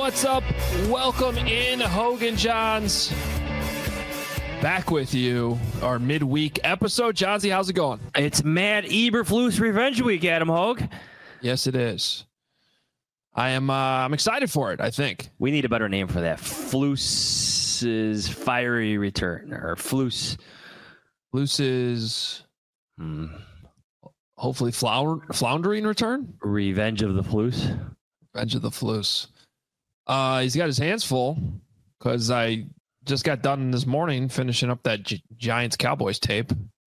What's up? Welcome in, Hogan Johns. Back with you, our midweek episode. Johnsy, how's it going? It's Matt Eberflus Revenge Week, Adam Hogue. Yes, it is. I'm excited for it, I think. We need a better name for that. Flus's fiery return, or Flus. Flus's hopefully floundering return? Revenge of the Flus. Revenge of the Flus. He's got his hands full because I just got done this morning finishing up that Giants Cowboys tape.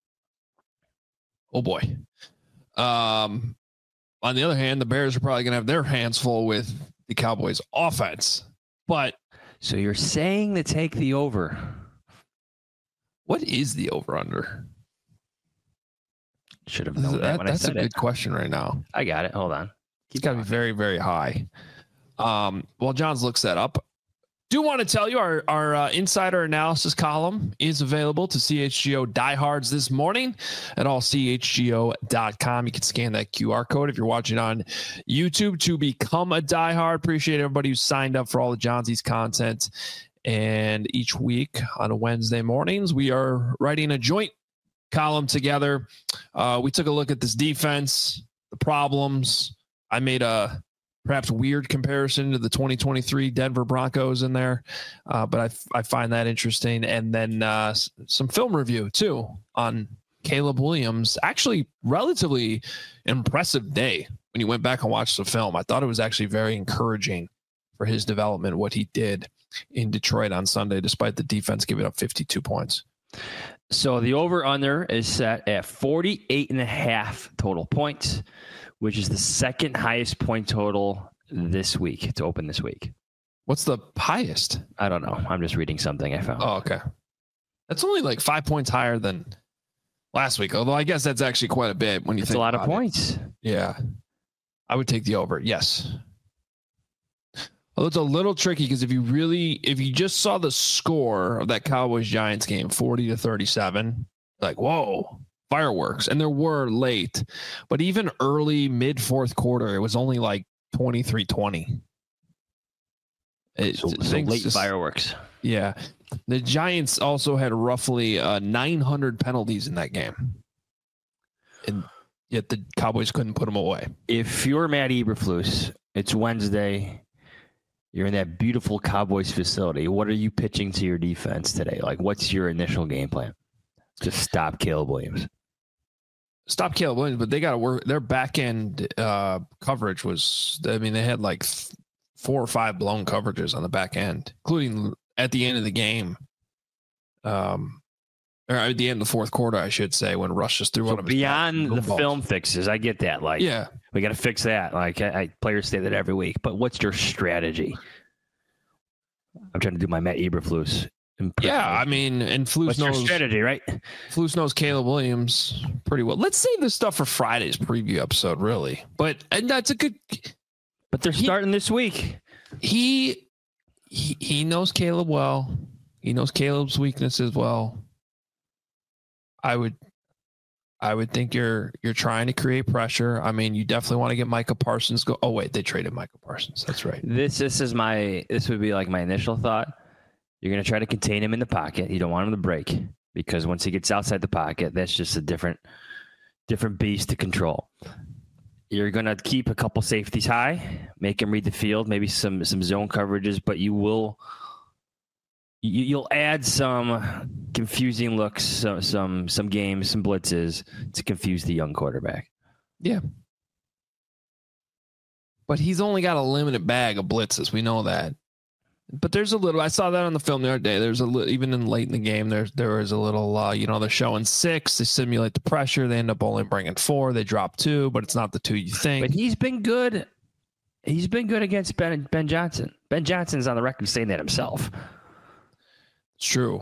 Oh boy. On the other hand, the Bears are probably going to have their hands full with the Cowboys offense. But so you're saying to take the over. What is the over under? Should have known that when I said it. That's a good question right now. I got it. Hold on. It's got to be very, very high. While Johns looks that up, do want to tell you our insider analysis column is available to CHGO diehards this morning at allchgo.com. You can scan that QR code if you're watching on YouTube to become a diehard. Appreciate everybody who signed up for all the Johnsy's content. And each week on Wednesday mornings, we are writing a joint column together. We took a look at this defense, the problems. I made a perhaps weird comparison to the 2023 Denver Broncos in there, but I find that interesting. And then some film review too on Caleb Williams. Actually, relatively impressive day when you went back and watched the film. I thought it was actually very encouraging for his development, what he did in Detroit on Sunday, despite the defense giving up 52 points. So the over-under is set at 48.5 total points, which is the second highest point total this week to open this week. What's the highest? I don't know. I'm just reading something I found. Oh, okay. That's only like 5 points higher than last week, although I guess that's actually quite a bit when you think about it. It's a lot of points. Yeah. I would take the over. Yes. Although it's a little tricky because if you just saw the score of that Cowboys Giants game, 40-37, like, whoa. Fireworks, and there were late, but even early mid fourth quarter, it was only like 23-20. So late fireworks. Yeah. The Giants also had roughly 900 penalties in that game, and yet the Cowboys couldn't put them away. If you're Matt Eberflus, it's Wednesday. You're in that beautiful Cowboys facility. What are you pitching to your defense today? Like, what's your initial game plan? Just stop Caleb Williams. Stop Caleb Williams, but they got to work. Their back end coverage was, I mean, they had like 4 or 5 blown coverages on the back end, including at the end of the game. Or at the end of the fourth quarter, I should say, when Rush just threw one of his beyond the film fixes. I get that. Like, yeah, we got to fix that. Like, players say that every week, but what's your strategy? I'm trying to do my Matt Eberflus. Yeah, I mean, and Flus knows strategy, right? Flus knows Caleb Williams pretty well. Let's save this stuff for Friday's preview episode, really. And that's a good. But they're starting this week. He knows Caleb well. He knows Caleb's weaknesses well. I would think you're trying to create pressure. I mean, you definitely want to get Micah Parsons go. Oh wait, they traded Micah Parsons. That's right. This would be like my initial thought. You're going to try to contain him in the pocket. You don't want him to break because once he gets outside the pocket, that's just a different beast to control. You're going to keep a couple safeties high, make him read the field, maybe some zone coverages, but you'll add some confusing looks, some games, some blitzes to confuse the young quarterback. Yeah. But he's only got a limited bag of blitzes. We know that. But there's a little, I saw that on the film the other day. There's a little, even in late in the game, there was a little, they're showing 6, they simulate the pressure. They end up only bringing 4. They drop 2, but it's not the 2 you think. But he's been good. He's been good against Ben Johnson. Ben Johnson's on the record saying that himself. It's true.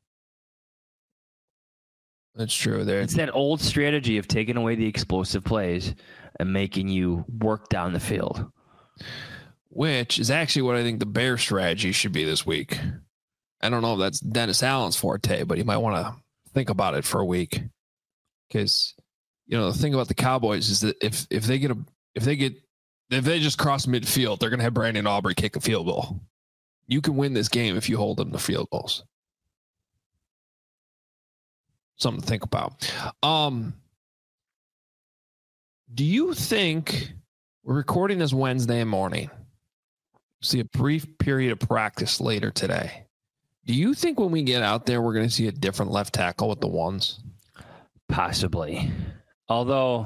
It's true. It's that old strategy of taking away the explosive plays and making you work down the field. Which is actually what I think the Bear strategy should be this week. I don't know if that's Dennis Allen's forte, but you might want to think about it for a week. Because, the thing about the Cowboys is that if they get If they just cross midfield, they're going to have Brandon Aubrey kick a field goal. You can win this game if you hold them to field goals. Something to think about. Do you think we're recording this Wednesday morning? See a brief period of practice later today. Do you think when we get out there, we're going to see a different left tackle with the ones? Possibly. Although,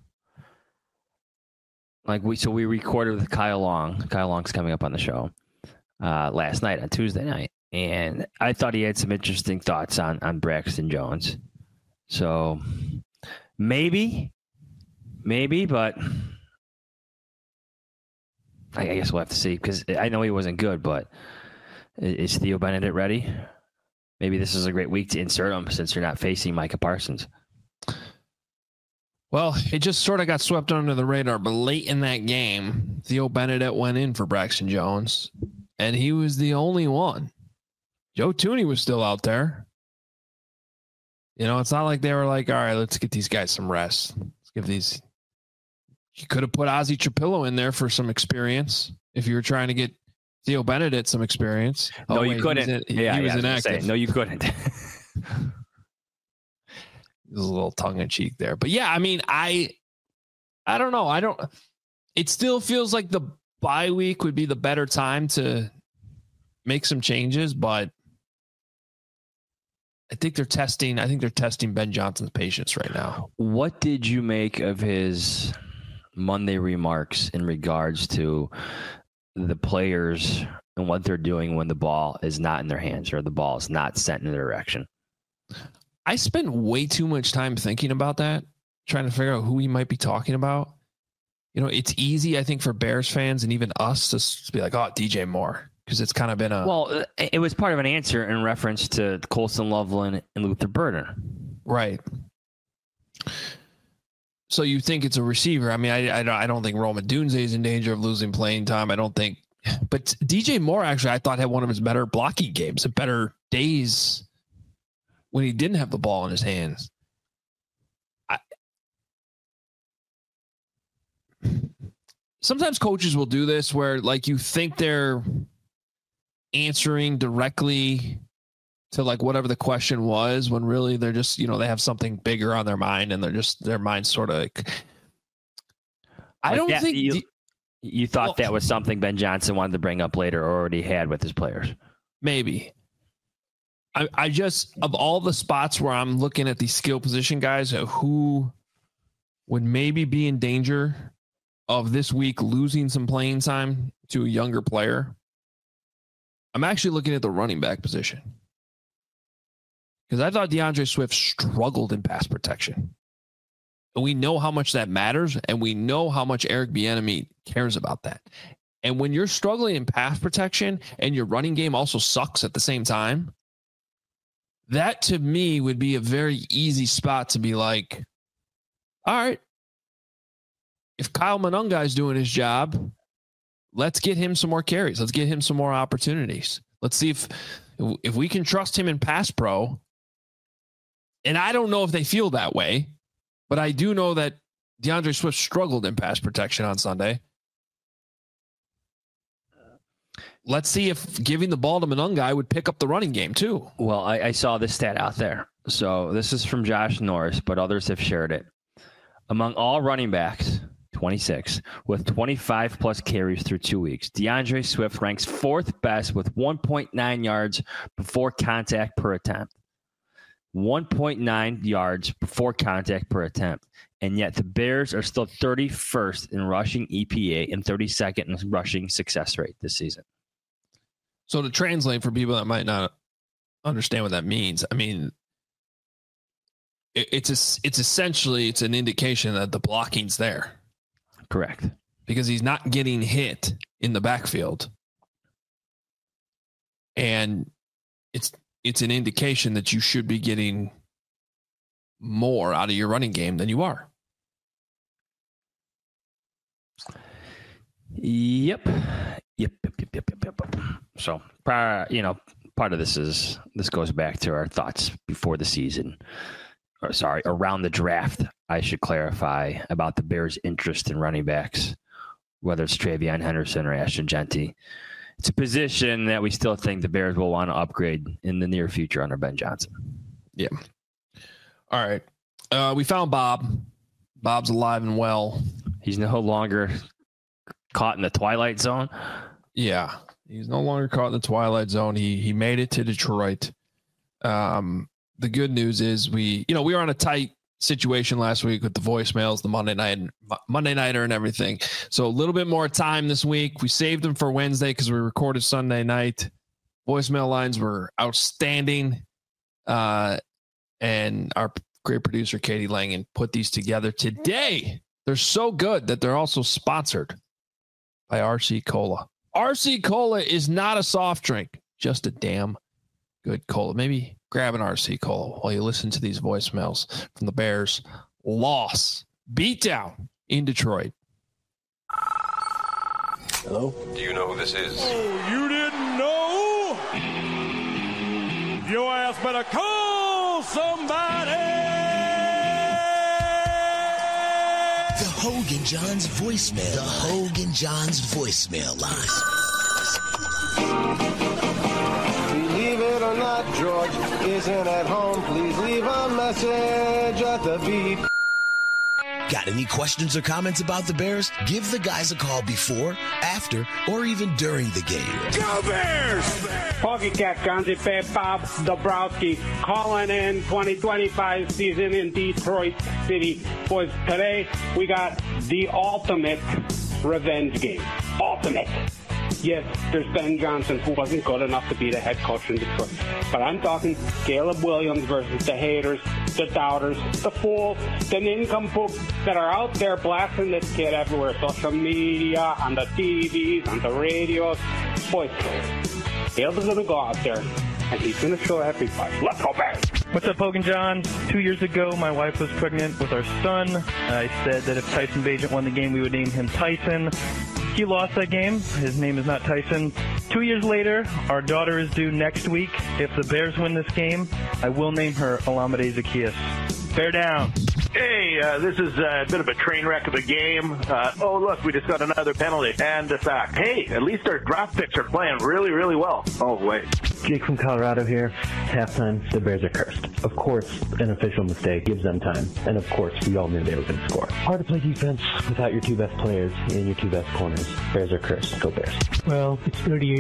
we recorded with Kyle Long. Kyle Long's coming up on the show last night on Tuesday night. And I thought he had some interesting thoughts on Braxton Jones. So maybe, but I guess we'll have to see, because I know he wasn't good, but is Theo Benedict ready? Maybe this is a great week to insert him since you're not facing Micah Parsons. Well, it just sort of got swept under the radar, but late in that game, Theo Benedict went in for Braxton Jones, and he was the only one. Joe Thuney was still out there. You know, it's not like they were like, all right, let's get these guys some rest. Let's give these. You could have put Ozzy Trapillo in there for some experience if you were trying to get Theo Benedict some experience. No, you couldn't. He was inactive. No, you couldn't. There's a little tongue in cheek there, but yeah, I mean, I don't know. It still feels like the bye week would be the better time to make some changes, but I think they're testing Ben Johnson's patience right now. What did you make of his Monday remarks in regards to the players and what they're doing when the ball is not in their hands or the ball is not sent in their direction? I spent way too much time thinking about that, trying to figure out who he might be talking about. You know, it's easy, I think, for Bears fans and even us to be like, oh, DJ Moore, because it's kind of been a... Well, it was part of an answer in reference to Colston Loveland and Luther Burden. Right. So you think it's a receiver. I mean, I don't think Rome Odunze is in danger of losing playing time. I don't think... But DJ Moore, actually, I thought had one of his better blocking games, better days when he didn't have the ball in his hands. Sometimes coaches will do this where, like, you think they're answering directly to like whatever the question was, when really they're just, you know, they have something bigger on their mind and their mind's sort of like, I don't think you thought that was something Ben Johnson wanted to bring up later or already had with his players. Maybe. I just, of all the spots where I'm looking at these skill position guys who would maybe be in danger of this week losing some playing time to a younger player, I'm actually looking at the running back position. Because I thought DeAndre Swift struggled in pass protection. And we know how much that matters, and we know how much Eric Bieniemy cares about that. And when you're struggling in pass protection and your running game also sucks at the same time, that to me would be a very easy spot to be like, all right, if Kyle Monangai is doing his job, let's get him some more carries. Let's get him some more opportunities. Let's see if we can trust him in pass pro. And I don't know if they feel that way, but I do know that DeAndre Swift struggled in pass protection on Sunday. Let's see if giving the ball to Monangai would pick up the running game too. Well, I saw this stat out there. So this is from Josh Norris, but others have shared it. Among all running backs, 26, with 25 plus carries through 2 weeks, DeAndre Swift ranks fourth best with 1.9 yards before contact per attempt. 1.9 yards before contact per attempt. And yet the Bears are still 31st in rushing EPA and 32nd in rushing success rate this season. So to translate for people that might not understand what that means, I mean, it's essentially, it's an indication that the blocking's there. Correct. Because he's not getting hit in the backfield. And it's an indication that you should be getting more out of your running game than you are. Yep. So, part of this goes back to our thoughts before the season. Around the draft, I should clarify about the Bears' interest in running backs whether it's Travion Henderson or Ashton Genty. It's a position that we still think the Bears will want to upgrade in the near future under Ben Johnson. Yeah. All right. We found Bob. Bob's alive and well. He's no longer caught in the Twilight Zone. Yeah. He's no longer caught in the Twilight Zone. He made it to Detroit. The good news is we were on a tight situation last week with the voicemails, the Monday Nighter and everything. So a little bit more time this week. We saved them for Wednesday because we recorded Sunday night. Voicemail lines were outstanding. And our great producer, Katie Langen, put these together today. They're so good that they're also sponsored by RC Cola. RC Cola is not a soft drink, just a damn good cola. Maybe grab an RC Cola while you listen to these voicemails from the Bears' loss, beatdown in Detroit. Hello? Do you know who this is? Oh, you didn't know? Your ass better call somebody! The Hogan Johns voicemail. The Hogan Johns voicemail line. Believe it or not, George isn't at home. Please leave a message at the beep. Got any questions or comments about the Bears? Give the guys a call before, after, or even during the game. Go Bears! Hockey Cat, Johnny Pep, Bob Dabrowski, calling in 2025 season in Detroit City. Boys, today we got the ultimate revenge game. Ultimate. Yes, there's Ben Johnson, who wasn't good enough to be the head coach in Detroit. But I'm talking Caleb Williams versus the haters, the doubters, the fools, the nincompoops that are out there blasting this kid everywhere. Social media, on the TVs, on the radios. Boys, Caleb's going to go out there, and he's going to show everybody. Let's go back. What's up, Hogan John? 2 years ago, my wife was pregnant with our son. I said that if Tyson Bagent won the game, we would name him Tyson. He lost that game. His name is not Tyson. 2 years later, our daughter is due next week. If the Bears win this game, I will name her Olamide Zaccheaus. Bear down. Hey, this is a bit of a train wreck of a game. Oh, look, we just got another penalty and a sack. Hey, at least our draft picks are playing really, really well. Oh, wait. Jake from Colorado here. Halftime, the Bears are cursed. Of course, an official mistake gives them time. And of course, we all knew they were going to score. Hard to play defense without your two best players and your two best corners. Bears are cursed. Go Bears. Well, it's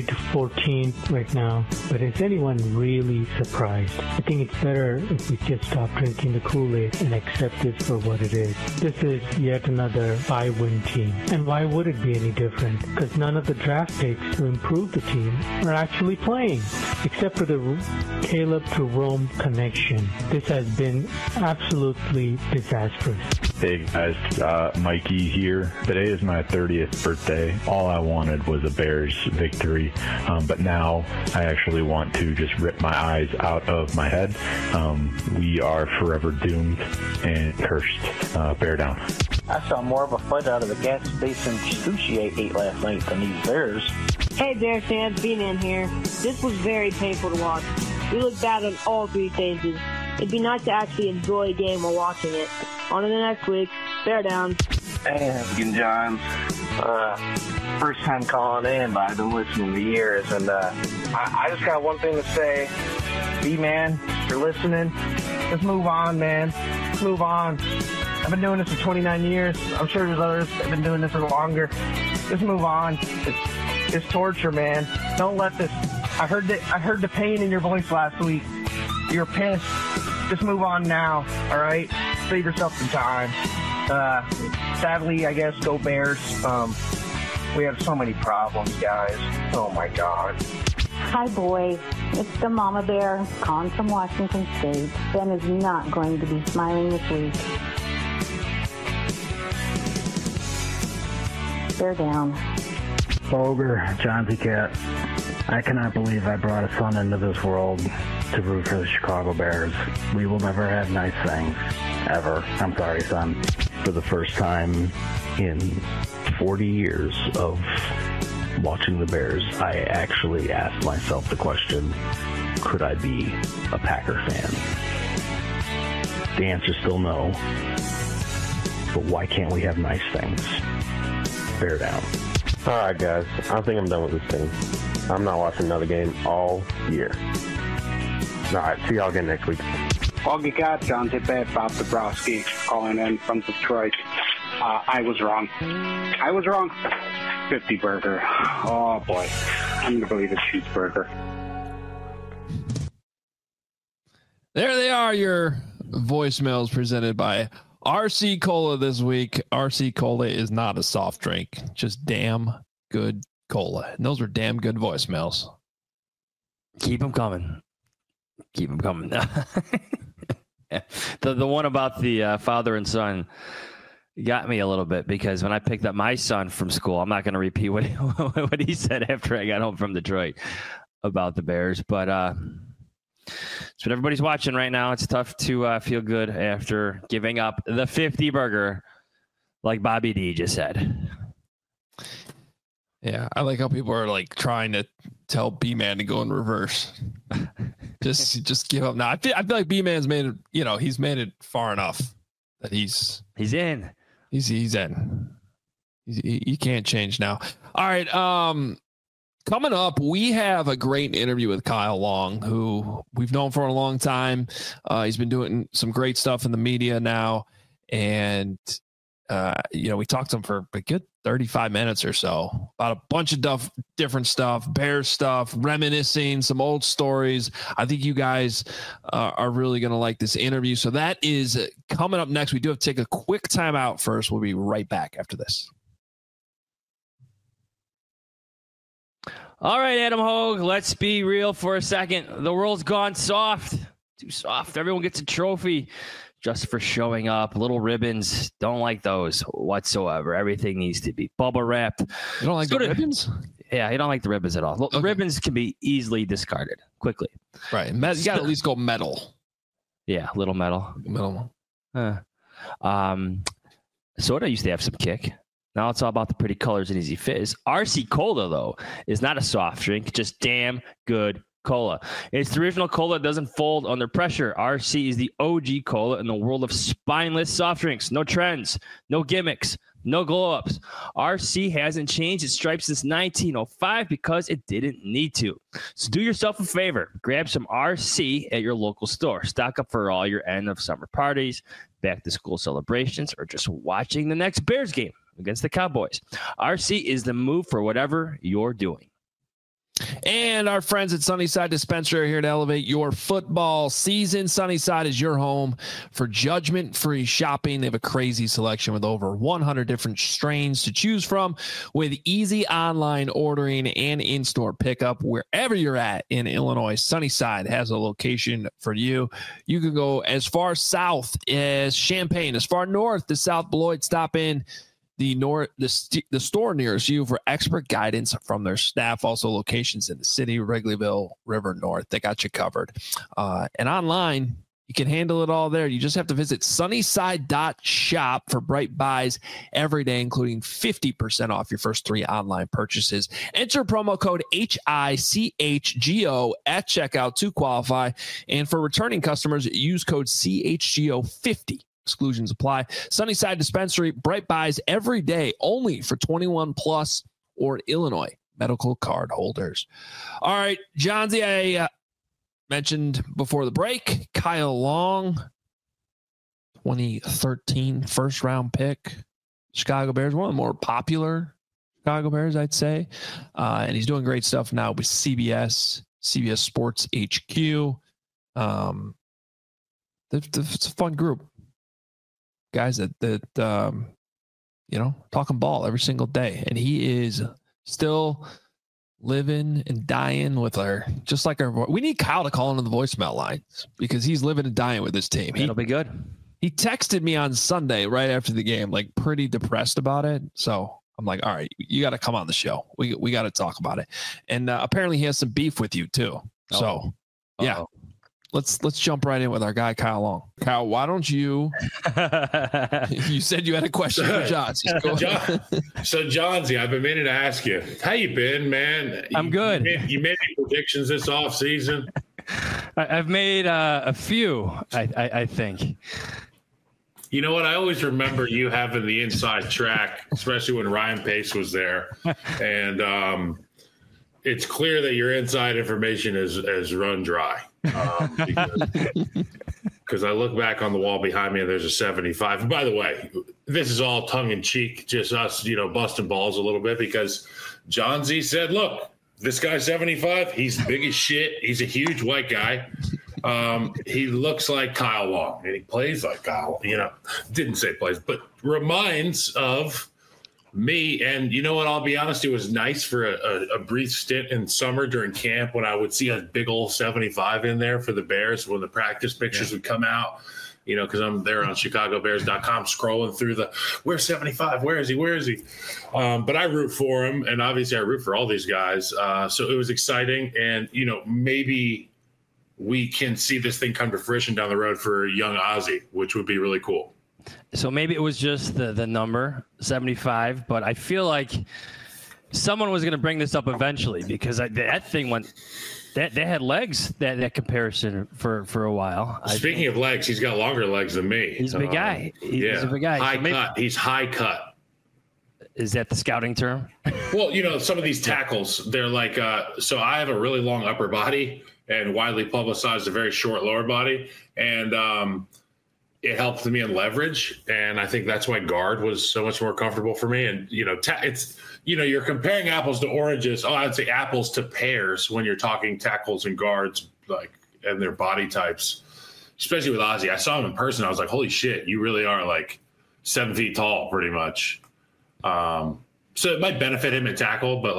38-14 right now. But is anyone really surprised? I think it's better if we just stop drinking the Kool-Aid and accept this for what it is. This is yet another 5-win team. And why would it be any different? Because none of the draft picks to improve the team are actually playing. Except for the Caleb to Rome connection. This has been absolutely disastrous. Hey guys, Mikey here. Today is my 30th birthday. All I wanted was a Bears victory, but now I actually want to just rip my eyes out of my head. We are forever doomed and cursed. Bear down. I saw more of a fight out of the gas station sushi I ate last night than these Bears. Hey Bears fans, B-Man here. This was very painful to watch. We looked bad on all three phases. It'd be nice to actually enjoy a game while watching it. On to the next week. Bear down. Hey, Hogan Johns. First time calling in, but I've been listening to years, and I just got one thing to say. B-Man, if you're listening, just move on, man. Just move on. I've been doing this for 29 years. I'm sure there's others that have been doing this for longer. Just move on. It's torture, man. Don't let this. I heard the pain in your voice last week. You're pissed. Just move on now, all right? Save yourself some time. Sadly, I guess, go Bears. We have so many problems, guys. Oh, my God. Hi, boys. It's the Mama Bear calling from Washington State. Ben is not going to be smiling this week. Bear down. Ogre, Johnsy Cat. I cannot believe I brought a son into this world to root for the Chicago Bears. We will never have nice things. Ever. I'm sorry, son. For the first time in 40 years of watching the Bears, I actually asked myself the question, could I be a Packer fan? The answer's still no. But why can't we have nice things? Bear down. All right, guys. I think I'm done with this team. I'm not watching another game all year. All right. See y'all again next week. Augie Cat, John Tippett, Bob Dabrowski, calling in from Detroit. I was wrong. 50 burger. Oh, boy. I'm going to believe it's cheeseburger. There they are, your voicemails presented by RC Cola this week. RC Cola is not a soft drink, just damn good cola. And those were damn good voicemails. Keep them coming. The one about the father and son got me a little bit, because when I picked up my son from school, I'm not going to repeat what he said after I got home from Detroit about the Bears, but it's what everybody's watching right now. It's tough to feel good after giving up the 50 burger, like Bobby D just said. Yeah, I like how people are like trying to tell B-Man to go in reverse. just give up now. I feel like B-Man's made it. He's made it far enough that he's in. He's in. You can't change now. All right. Coming up, we have a great interview with Kyle Long, who we've known for a long time. He's been doing some great stuff in the media now, and we talked to him for a good 35 minutes or so about a bunch of different stuff, Bears stuff, reminiscing, some old stories. I think you guys are really going to like this interview. So that is coming up next. We do have to take a quick time out first. We'll be right back after this. All right, Adam Hogue, let's be real for a second. The world's gone soft. Too soft. Everyone gets a trophy just for showing up. Little ribbons, don't like those whatsoever. Everything needs to be bubble wrapped. You don't like the ribbons? Yeah, you don't like the ribbons at all. Okay. Ribbons can be easily discarded quickly. Right. You got to at least go metal. Yeah, little metal. Soda used to have some kick. Now it's all about the pretty colors and easy fizz. RC Cola, though, is not a soft drink, just damn good cola. It's the original cola that doesn't fold under pressure. RC is the OG cola in the world of spineless soft drinks. No trends, no gimmicks, no glow-ups. RC hasn't changed its stripes since 1905 because it didn't need to. So do yourself a favor. Grab some RC at your local store. Stock up for all your end-of-summer parties, back-to-school celebrations, or just watching the next Bears game against the Cowboys. RC is the move for whatever you're doing. And our friends at Sunnyside Dispensary are here to elevate your football season. Sunnyside is your home for judgment-free shopping. They have a crazy selection with over 100 different strains to choose from, with easy online ordering and in-store pickup wherever you're at in Illinois. Sunnyside has a location for you. You can go as far south as Champaign, as far north as South Beloit. Stop in the store nearest you for expert guidance from their staff. Also locations in the city, Wrigleyville, River North. They got you covered. And online, you can handle it all there. You just have to visit sunnyside.shop for bright buys every day, including 50% off your first 3 online purchases. Enter promo code HICHGO at checkout to qualify. And for returning customers, use code CHGO50. Exclusions apply. Sunnyside Dispensary, bright buys every day, only for 21 plus or Illinois medical card holders. All right, Johnsy, I mentioned before the break, Kyle Long, 2013 first round pick, Chicago Bears, one of the more popular Chicago Bears, I'd say. And he's doing great stuff now with CBS Sports HQ. It's a fun group. Guys that talking ball every single day, and he is still living and dying with just like our. We need Kyle to call into the voicemail lines because he's living and dying with his team. It'll be good. He texted me on Sunday right after the game, like pretty depressed about it. So I'm like, all right, you got to come on the show. We got to talk about it. And apparently he has some beef with you too. So yeah. Let's jump right in with our guy, Kyle Long. Kyle, why don't you said you had a question for John. So Johnsy, I've been meaning to ask you, how you been, man? I'm good. You made any predictions this offseason? I've made a few, I think. You know what? I always remember you having the inside track, especially when Ryan Pace was there. And it's clear that your inside information is run dry. Because I look back on the wall behind me and there's a 75. And by the way, this is all tongue in cheek, just us, busting balls a little bit, because John Z said, look, this guy's 75. He's big as shit. He's a huge white guy. He looks like Kyle Long, and he plays like Kyle. Didn't say plays, but reminds of me. And you know what? I'll be honest. It was nice for a brief stint in summer during camp when I would see a big old 75 in there for the Bears when the practice pictures would come out. Because I'm there on ChicagoBears.com scrolling through where's 75? Where is he? Where is he? But I root for him, and obviously I root for all these guys. So it was exciting, and maybe we can see this thing come to fruition down the road for young Ozzie, which would be really cool. So maybe it was just the number 75, but I feel like someone was going to bring this up eventually, because that thing went. They had legs, that comparison for a while. Speaking of legs, he's got longer legs than me. He's a big guy. He's a big guy. High cut. He's high cut. Is that the scouting term? Well, some of these tackles, they're like, so I have a really long upper body and widely publicized a very short lower body. And it helped me in leverage. And I think that's why guard was so much more comfortable for me. And, it's, you're comparing apples to oranges. Oh, I'd say apples to pears when you're talking tackles and guards, and their body types, especially with Ozzie. I saw him in person. I was like, holy shit, you really are 7 feet tall, pretty much. So it might benefit him at tackle, but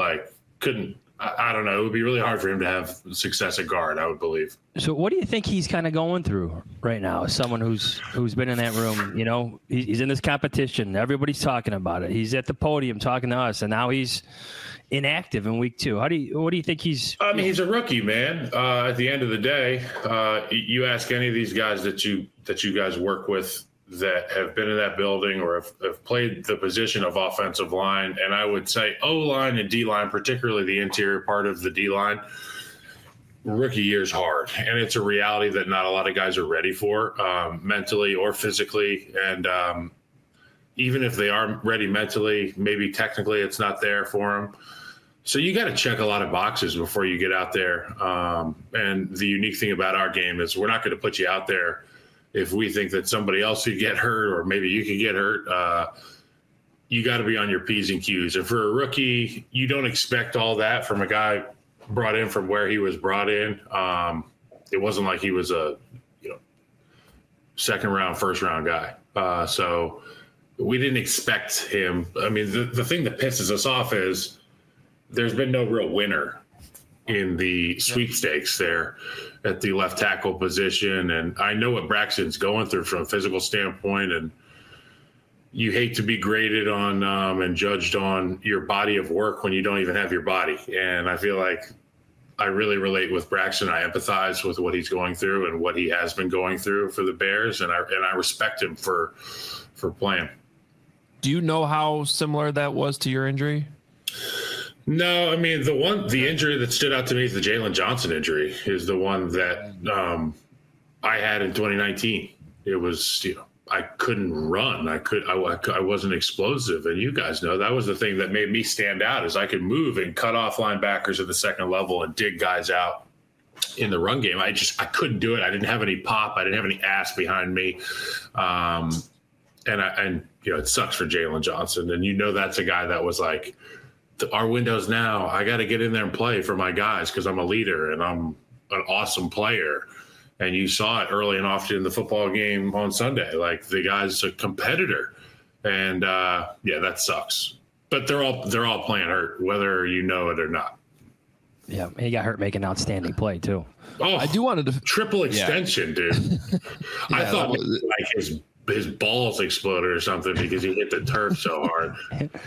I don't know. It would be really hard for him to have success at guard, I would believe. So what do you think he's kind of going through right now as someone who's been in that room? He's in this competition. Everybody's talking about it. He's at the podium talking to us, and now he's inactive in week 2. What do you think he's? I mean, he's a rookie, man. At the end of the day, you ask any of these guys that you guys work with that have been in that building or have played the position of offensive line, and I would say O-line and D-line, particularly the interior part of the D-line, rookie year's hard, and it's a reality that not a lot of guys are ready for, mentally or physically. And even if they are ready mentally, maybe technically it's not there for them. So you got to check a lot of boxes before you get out there. And the unique thing about our game is we're not going to put you out there if we think that somebody else could get hurt or maybe you could get hurt. You got to be on your P's and Q's. And for a rookie, you don't expect all that from a guy brought in from where he was brought in. It wasn't like he was a second round, first round guy. So we didn't expect him. I mean, the thing that pisses us off is there's been no real winner in the sweepstakes there at the left tackle position. And I know what Braxton's going through from a physical standpoint, and you hate to be graded on and judged on your body of work when you don't even have your body. And I feel like I really relate with Braxton. I empathize with what he's going through and what he has been going through for the Bears. And I respect him for playing. Do you know how similar that was to your injury? No, I mean, the injury that stood out to me is the Jalen Johnson injury is the one that I had in 2019. It was, I couldn't run. I wasn't explosive. And you guys know that was the thing that made me stand out is I could move and cut off linebackers at the second level and dig guys out in the run game. I couldn't do it. I didn't have any pop. I didn't have any ass behind me. And it sucks for Jalen Johnson. And that's a guy that was like, our window's now. I got to get in there and play for my guys because I'm a leader and I'm an awesome player. And you saw it early and often in the football game on Sunday. Like the guy's a competitor, and that sucks. But they're all playing hurt, whether you know it or not. Yeah, he got hurt making outstanding play too. Oh, I do want to triple extension, dude. I thought like his balls exploded or something because he hit the turf so hard.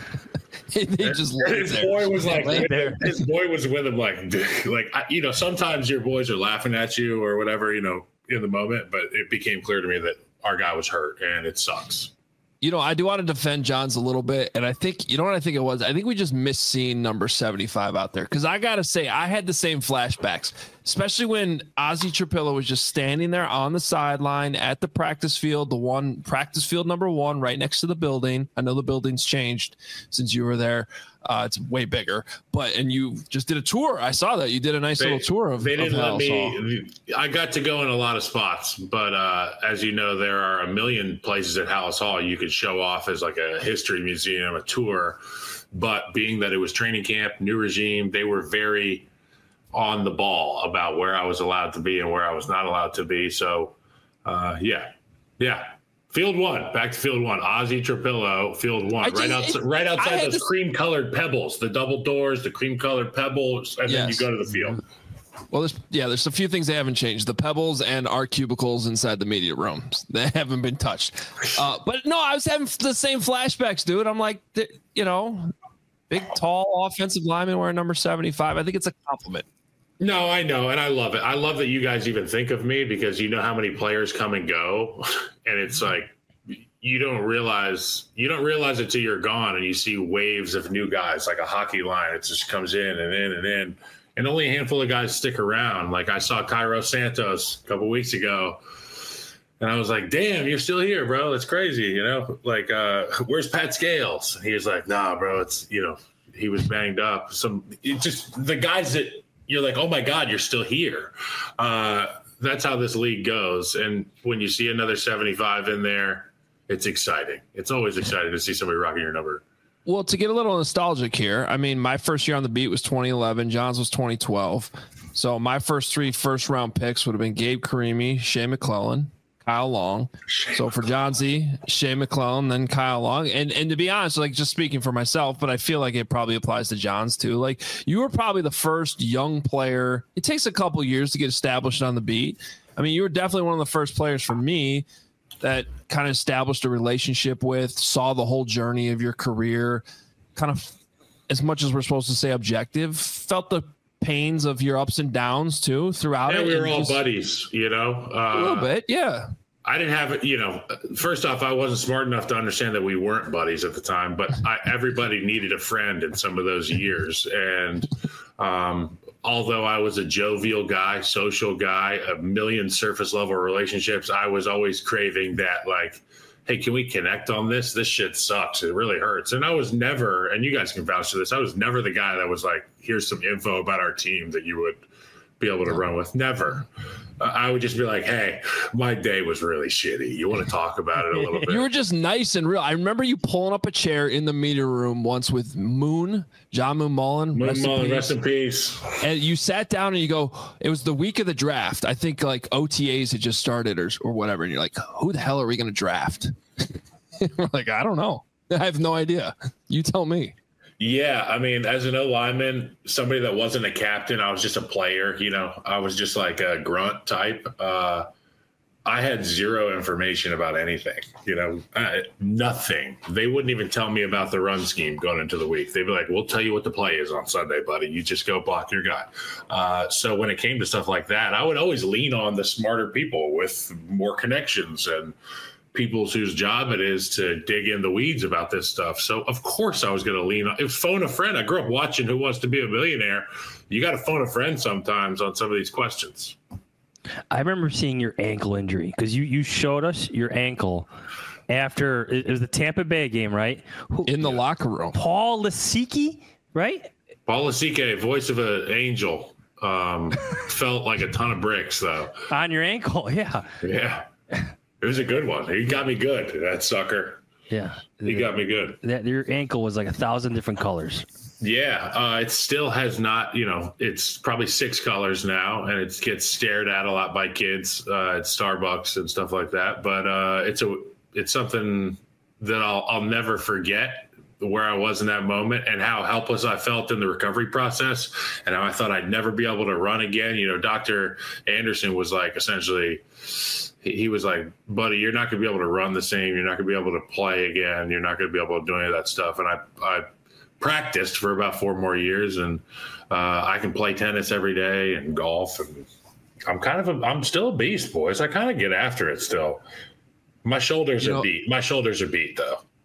His boy was like, his boy was with him, sometimes your boys are laughing at you or whatever, in the moment, but it became clear to me that our guy was hurt and it sucks. I do want to defend Johns a little bit. And I think, what I think it was? I think we just missed seeing number 75 out there. Because I got to say, I had the same flashbacks. especially when Ozzie Trapilo was just standing there on the sideline at the practice field, practice field number 1 right next to the building. I know the building's changed since you were there. It's way bigger, and you just did a tour. I saw that you did a nice little tour of. They didn't of let Halas Hall. me. I got to go in a lot of spots, but as you know, there are a million places at Halas Hall you could show off as like a history museum, a tour. But being that it was training camp, new regime, they were very on the ball about where I was allowed to be and where I was not allowed to be. So, yeah. Field 1, back to Field 1. Ozzie Trapilo, Field 1, right outside those cream-colored pebbles, the double doors, the cream-colored pebbles, and then you go to the field. Well, there's a few things they haven't changed. The pebbles and our cubicles inside the media rooms. They haven't been touched. But no, I was having the same flashbacks, dude. I'm like, big, tall offensive lineman wearing number 75. I think it's a compliment. No, I know, and I love it. I love that you guys even think of me because you know how many players come and go, and it's like you don't realize it till you're gone, and you see waves of new guys like a hockey line. It just comes in and in and in, and only a handful of guys stick around. Like I saw Cairo Santos a couple weeks ago, and I was like, "Damn, you're still here, bro. That's crazy." Like where's Pat Scales? And he was like, "Nah, bro. It's he was banged up." Just the guys that. You're like, oh my God, you're still here. That's how this league goes. And when you see another 75 in there, it's exciting. It's always exciting to see somebody rocking your number. Well, to get a little nostalgic here, I mean, my first year on the beat was 2011. John's was 2012. So my first 3 first-round picks would have been Gabe Carimi, Shea McClellan, Kyle Long. So for John Z, Shea McClellan, then Kyle Long. And to be honest, like just speaking for myself, but I feel like it probably applies to John's too. Like you were probably the first young player. It takes a couple years to get established on the beat. I mean, you were definitely one of the first players for me that kind of established a relationship with, saw the whole journey of your career, kind of as much as we're supposed to say objective, felt the pains of your ups and downs too throughout it. We were all buddies, a little bit. Yeah. I didn't have, first off, I wasn't smart enough to understand that we weren't buddies at the time, but everybody needed a friend in some of those years. And although I was a jovial guy, social guy, a million surface level relationships, I was always craving that, like, hey, can we connect on this? This shit sucks. It really hurts. And I was never, and you guys can vouch for this, I was never the guy that was like, here's some info about our team that you would be able to run with. Never. I would just be like, hey, my day was really shitty. You want to talk about it a little bit? You were just nice and real. I remember you pulling up a chair in the media room once with John Moon Mullen. Rest in peace. And you sat down and you go, it was the week of the draft. I think like OTAs had just started or whatever. And you're like, who the hell are we going to draft? We're like, I don't know. I have no idea. You tell me. Yeah, I mean, as an O-lineman, somebody that wasn't a captain, I was just a player, I was just like a grunt type. I had zero information about anything, nothing. They wouldn't even tell me about the run scheme going into the week. They'd be like, we'll tell you what the play is on Sunday, buddy. You just go block your guy. So when it came to stuff like that, I would always lean on the smarter people with more connections and people whose job it is to dig in the weeds about this stuff. So of course I was going to lean on it. Phone a friend. I grew up watching Who Wants to Be a Millionaire. You got to phone a friend sometimes on some of these questions. I remember seeing your ankle injury because you showed us your ankle after it was the Tampa Bay game, right? In the locker room. Paul Lasicki, right? Paul Lasicki, voice of an angel, felt like a ton of bricks though. On your ankle, yeah. Yeah. It was a good one. He got me good, that sucker. Yeah. He got me good. Your ankle was like 1,000 different colors. Yeah. It still has not, it's probably 6 colors now, and it gets stared at a lot by kids at Starbucks and stuff like that. But it's something that I'll never forget, where I was in that moment and how helpless I felt in the recovery process and how I thought I'd never be able to run again. Dr. Anderson was like, essentially, he was like, buddy, you're not going to be able to run the same. You're not going to be able to play again. You're not going to be able to do any of that stuff. And I practiced for about 4 more years, and I can play tennis every day and golf. And I'm still a beast, boys. I kind of get after it still. My shoulders are beat. My shoulders are beat though.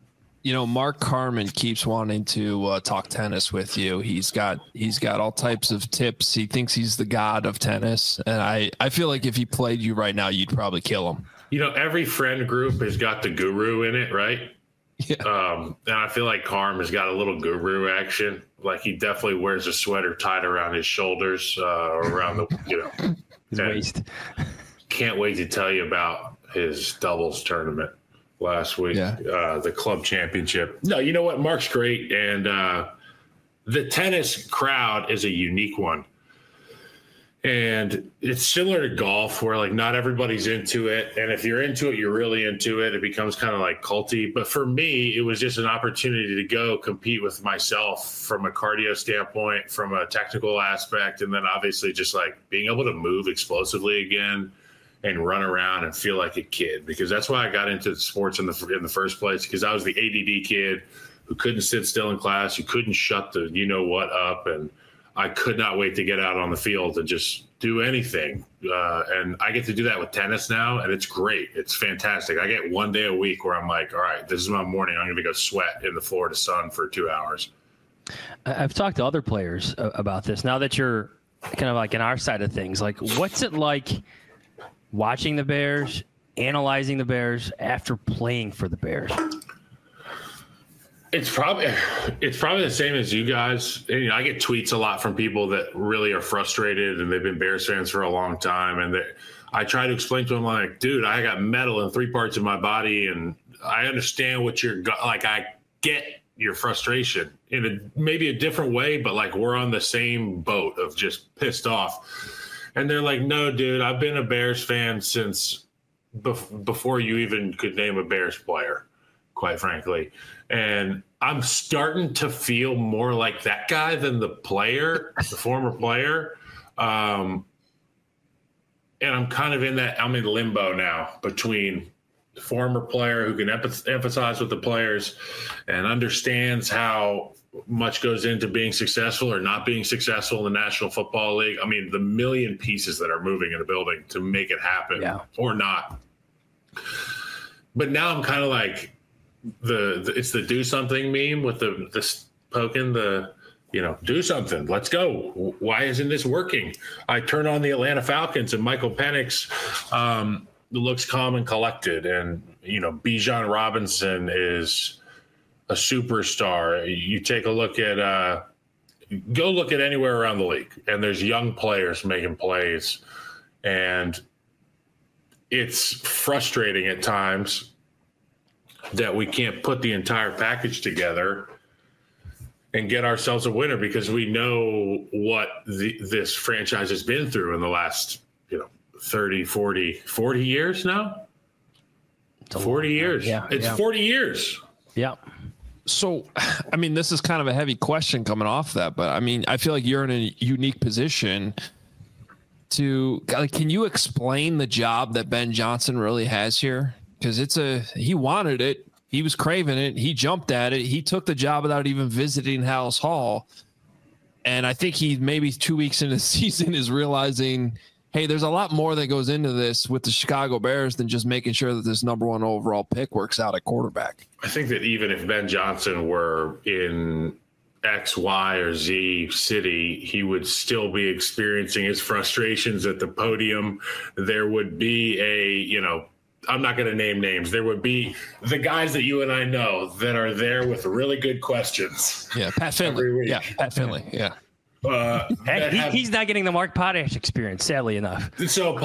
Mark Carman keeps wanting to talk tennis with you. He's got all types of tips. He thinks he's the god of tennis, and I feel like if he played you right now, you'd probably kill him. Every friend group has got the guru in it, right? Yeah. And I feel like Carm has got a little guru action. Like he definitely wears a sweater tied around his shoulders, or around the his waist. Can't wait to tell you about his doubles tournament last week, the club championship. No, you know what? Mark's great, and the tennis crowd is a unique one. And it's similar to golf where like not everybody's into it. And if you're into it, you're really into it. It becomes kind of like culty. But for me, it was just an opportunity to go compete with myself from a cardio standpoint, from a technical aspect. And then obviously just like being able to move explosively again and run around and feel like a kid, because that's why I got into sports in the first place, because I was the ADD kid who couldn't sit still in class, who couldn't shut the you-know-what up. And I could not wait to get out on the field and just do anything. And I get to do that with tennis now, and it's great. It's fantastic. I get one day a week where I'm like, all right, this is my morning. I'm going to go sweat in the Florida sun for 2 hours. I've talked to other players about this. Now that you're kind of like in our side of things, like what's it like watching the Bears, analyzing the Bears after playing for the Bears? It's probably the same as you guys. And, I get tweets a lot from people that really are frustrated and they've been Bears fans for a long time. And I try to explain to them like, dude, I got metal in 3 parts of my body, and I understand what you're like. I get your frustration in maybe a different way, but like we're on the same boat of just pissed off. And they're like, no, dude, I've been a Bears fan since before you even could name a Bears player, quite frankly. And I'm starting to feel more like that guy than the player, the former player. And I'm kind of I'm in limbo now between the former player who can emphasize with the players and understands how much goes into being successful or not being successful in the National Football League. I mean, the million pieces that are moving in a building to make it happen or not. But now I'm kind of like, it's the do something meme with the poking do something, let's go. Why isn't this working? I turn on the Atlanta Falcons and Michael Penix looks calm and collected, and Bijan Robinson is a superstar. You take a look at go look at anywhere around the league, and there's young players making plays, and it's frustrating at times that we can't put the entire package together and get ourselves a winner, because we know what this franchise has been through in the last 30, 40 years now. 40 years. Yeah, it's 40 years. Yeah. So, I mean, this is kind of a heavy question coming off that, but I mean, I feel like you're in a unique position to, can you explain the job that Ben Johnson really has here? Because he wanted it. He was craving it. He jumped at it. He took the job without even visiting Halas Hall. And I think he maybe 2 weeks into the season is realizing, hey, there's a lot more that goes into this with the Chicago Bears than just making sure that this number 1 overall pick works out at quarterback. I think that even if Ben Johnson were in X, Y, or Z city, he would still be experiencing his frustrations at the podium. There would be I'm not going to name names. There would be the guys that you and I know that are there with really good questions. Yeah, Pat Finley. Yeah, Pat Finley. Yeah. He's not getting the Mark Potash experience, sadly enough. So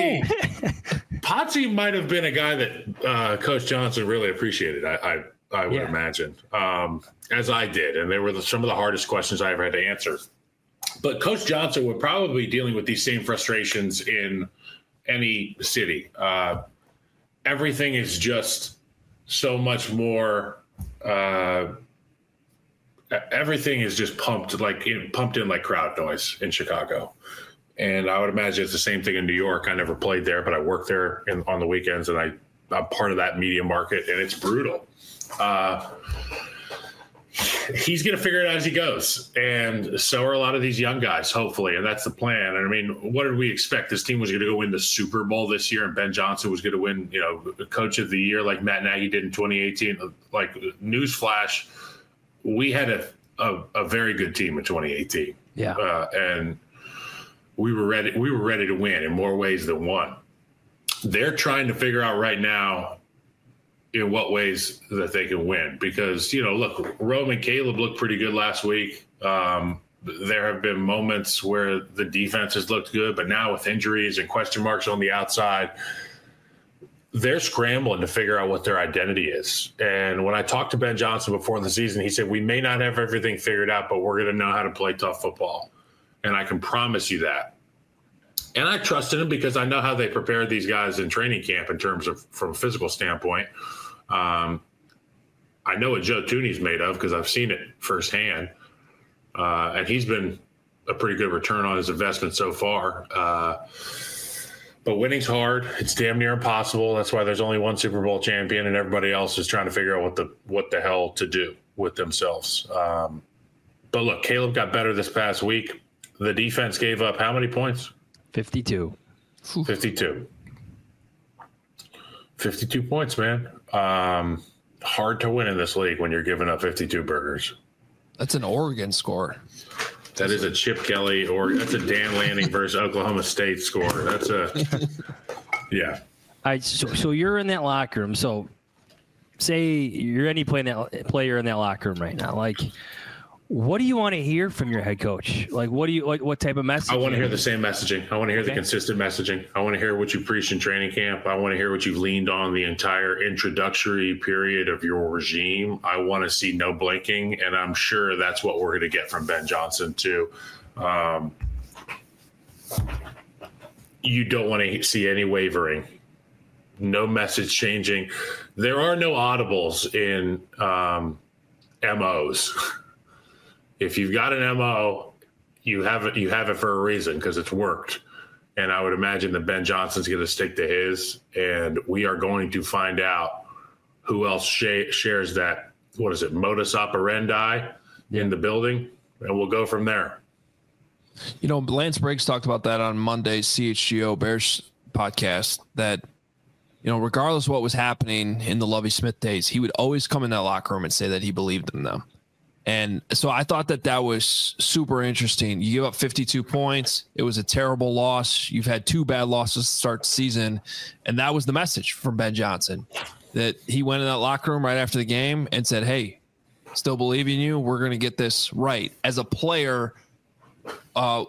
Potsy might have been a guy that Coach Johnson really appreciated, I would imagine, as I did. And they were some of the hardest questions I ever had to answer. But Coach Johnson would probably be dealing with these same frustrations in any city. Everything is just so much more. Everything is just pumped in like crowd noise in Chicago, and I would imagine it's the same thing in New York. I never played there, but I work there on the weekends, and I'm part of that media market, and it's brutal. he's going to figure it out as he goes. And so are a lot of these young guys, hopefully. And that's the plan. And I mean, what did we expect? This team was going to go win the Super Bowl this year, and Ben Johnson was going to win, Coach of the Year like Matt Nagy did in 2018. Like, newsflash, we had a very good team in 2018. Yeah. And we were ready. We were ready to win in more ways than one. They're trying to figure out right now in what ways that they can win, because, look, Rome and Caleb looked pretty good last week. There have been moments where the defense has looked good, but now with injuries and question marks on the outside, they're scrambling to figure out what their identity is. And when I talked to Ben Johnson before the season, he said, we may not have everything figured out, but we're going to know how to play tough football. And I can promise you that. And I trusted him because I know how they prepared these guys in training camp in terms of from a physical standpoint. I know what Joe Thuney's made of because I've seen it firsthand. And he's been a pretty good return on his investment so far. But winning's hard. It's damn near impossible. That's why there's only one Super Bowl champion, and everybody else is trying to figure out what the hell to do with themselves. But look, Caleb got better this past week. The defense gave up how many points? 52. 52. 52 points, man. Hard to win in this league when you're giving up 52 burgers. That's an Oregon score. That is a Chip Kelly, or that's a Dan Lanning versus Oklahoma State score. That's yeah. So you're in that locker room. So say you're any player in that locker room right now. Like, what do you want to hear from your head coach? Like, what type of message? I want to hear the same messaging. I want to hear the consistent messaging. I want to hear what you preached in training camp. I want to hear what you've leaned on the entire introductory period of your regime. I want to see no blinking, and I'm sure that's what we're going to get from Ben Johnson too. You don't want to see any wavering, no message changing. There are no audibles in MOs. If you've got an MO, you have it for a reason, because it's worked. And I would imagine that Ben Johnson's going to stick to his, and we are going to find out who else shares that, what is it, modus operandi in the building, and we'll go from there. Lance Briggs talked about that on Monday's CHGO Bears podcast, that, regardless of what was happening in the Lovie Smith days, he would always come in that locker room and say that he believed in them. And so I thought that was super interesting. You give up 52 points. It was a terrible loss. You've had 2 bad losses to start the season. And that was the message from Ben Johnson, that he went in that locker room right after the game and said, hey, still believe in you. We're going to get this right. As a player, why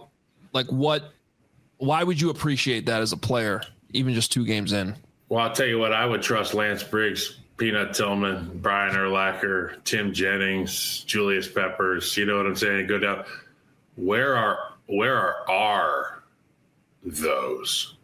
would you appreciate that as a player, even just 2 games in? Well, I'll tell you what, I would trust Lance Briggs, Peanut Tillman, Brian Urlacher, Tim Jennings, Julius Peppers. You know what I'm saying? Go down. Where are those?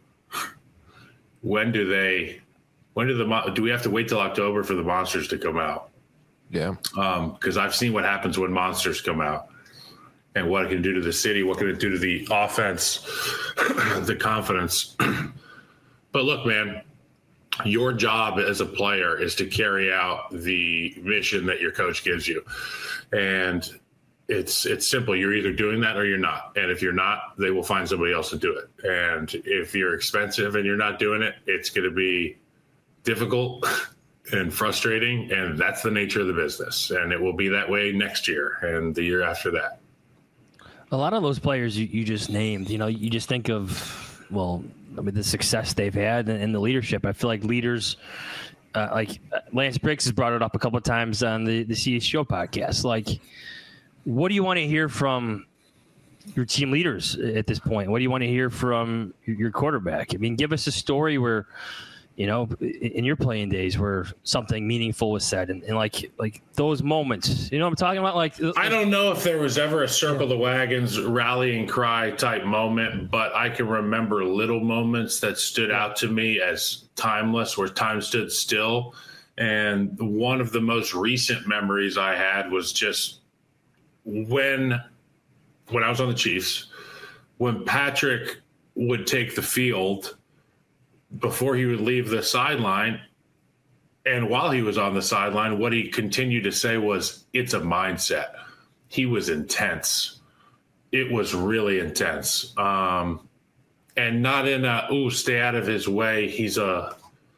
Do we have to wait till October for the monsters to come out? Yeah. Because I've seen what happens when monsters come out, and what it can do to the city, what can it do to the offense, the confidence. But look, man, your job as a player is to carry out the mission that your coach gives you. And it's simple. You're either doing that or you're not. And if you're not, they will find somebody else to do it. And if you're expensive and you're not doing it, it's going to be difficult and frustrating. And that's the nature of the business. And it will be that way next year and the year after that. A lot of those players you just named, you just think of, the success they've had and the leadership. I feel like leaders, like Lance Briggs has brought it up a couple of times on the CHGO podcast. Like, what do you want to hear from your team leaders at this point? What do you want to hear from your quarterback? I mean, give us a story where, in your playing days where something meaningful was said and like those moments, what I'm talking about? I don't know if there was ever a circle the wagons rallying cry type moment, but I can remember little moments that stood out to me as timeless, where time stood still. And one of the most recent memories I had was just when I was on the Chiefs, when Patrick would take the field before he would leave the sideline, And while he was on the sideline, what he continued to say was, it's a mindset. He was intense. It was really intense. And not in a, stay out of his way. He's a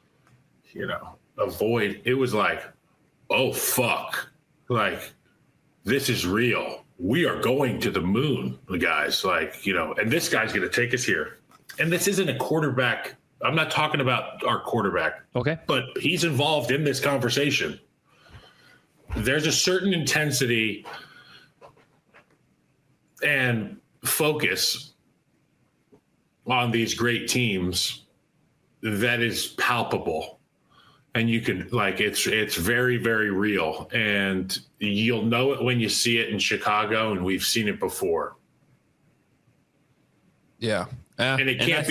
void. It was like, oh, fuck. Like, this is real. We are going to the moon, guys. Like, and this guy's going to take us here. And this isn't a quarterback. I'm not talking about our quarterback. Okay. But he's involved in this conversation. There's a certain intensity and focus on these great teams that is palpable. And you can, it's very, very real. And you'll know it when you see it in Chicago, and we've seen it before. Yeah. And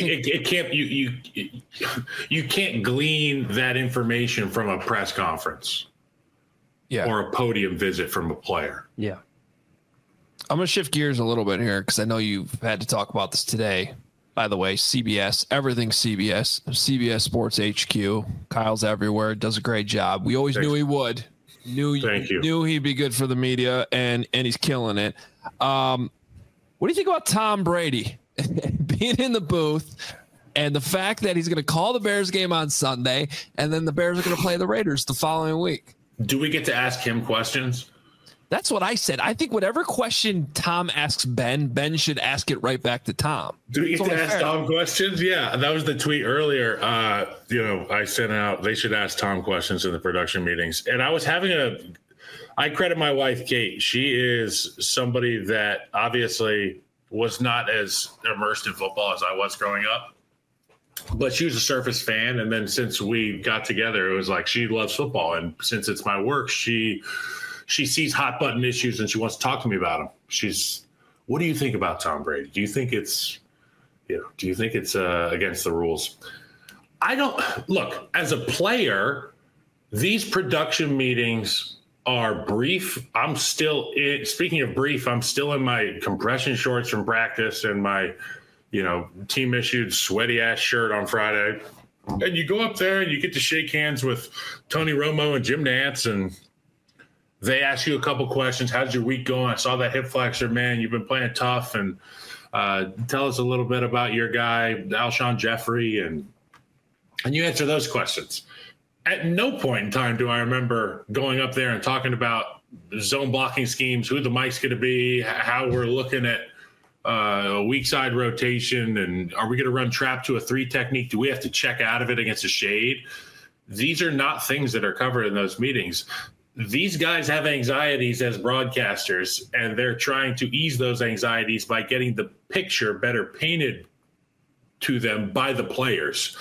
you can't glean that information from a press conference. Yeah. Or a podium visit from a player. Yeah. I'm going to shift gears a little bit here because I know you've had to talk about this today. By the way, CBS, everything CBS Sports HQ. Kyle's everywhere, does a great job. We always knew he would. Knew he'd be good for the media, and he's killing it. What do you think about Tom Brady being in the booth and the fact that he's going to call the Bears game on Sunday, and then the Bears are going to play the Raiders the following week? Do we get to ask him questions? That's what I said. I think whatever question Tom asks Ben should ask it right back to Tom. Do we get to ask Tom questions? Yeah, that was the tweet earlier. I sent out, they should ask Tom questions in the production meetings. And I was I credit my wife, Kate. She is somebody that obviously was not as immersed in football as I was growing up. But she was a Surface fan. And then since we got together, it was like she loves football. And since it's my work, she sees hot button issues and she wants to talk to me about them. What do you think about Tom Brady? Do you think it's against the rules? I don't look, as a player, these production meetings are brief. Speaking of brief, I'm still in my compression shorts from practice and my, team issued sweaty ass shirt on Friday. And you go up there and you get to shake hands with Tony Romo and Jim Nantz, and they ask you a couple questions. How's your week going? I saw that hip flexor, man. You've been playing tough. And tell us a little bit about your guy, Alshon Jeffrey. And you answer those questions. At no point in time do I remember going up there and talking about zone blocking schemes, who the mic's going to be, how we're looking at a weak side rotation, and are we going to run trap to a 3 technique? Do we have to check out of it against a shade? These are not things that are covered in those meetings. These guys have anxieties as broadcasters, and they're trying to ease those anxieties by getting the picture better painted to them by the players.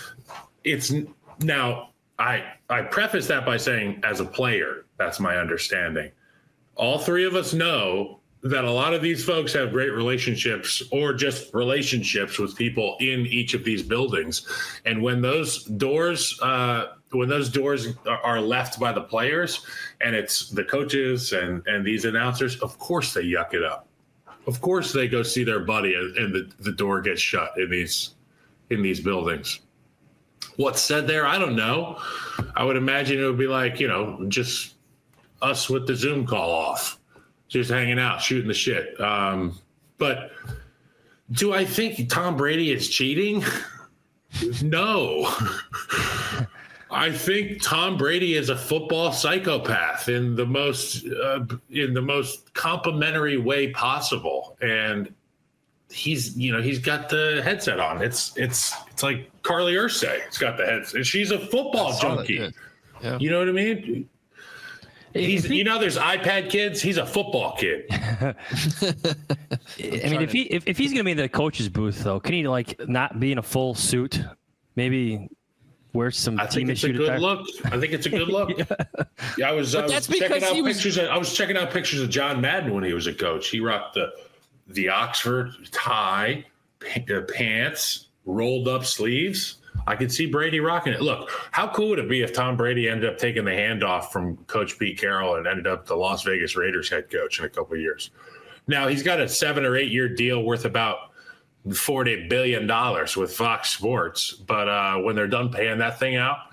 I preface that by saying, as a player, that's my understanding. All three of us know that a lot of these folks have great relationships or just relationships with people in each of these buildings. And when those doors are left by the players and it's the coaches and these announcers, of course they yuck it up. Of course they go see their buddy and the door gets shut in these buildings. What's said there, I don't know. I would imagine it would be like, just us with the Zoom call off. Just hanging out, shooting the shit. But do I think Tom Brady is cheating? No. I think Tom Brady is a football psychopath in the most complimentary way possible, and he's got the headset on. It's like Carly Ursay. It's got the headset. She's a football junkie. Yeah. You know what I mean? There's iPad kids. He's a football kid. I mean, if he's going to be in the coach's booth, though, can he not be in a full suit? Maybe wear some team issue. I think it's a good look. Yeah, I was checking out pictures of John Madden when he was a coach. He rocked the Oxford tie, pants, rolled up sleeves. I could see Brady rocking it. Look, how cool would it be if Tom Brady ended up taking the handoff from Coach Pete Carroll and ended up the Las Vegas Raiders head coach in a couple of years? Now, he's got a 7 or 8 year deal worth about $40 billion with Fox Sports. But when they're done paying that thing out,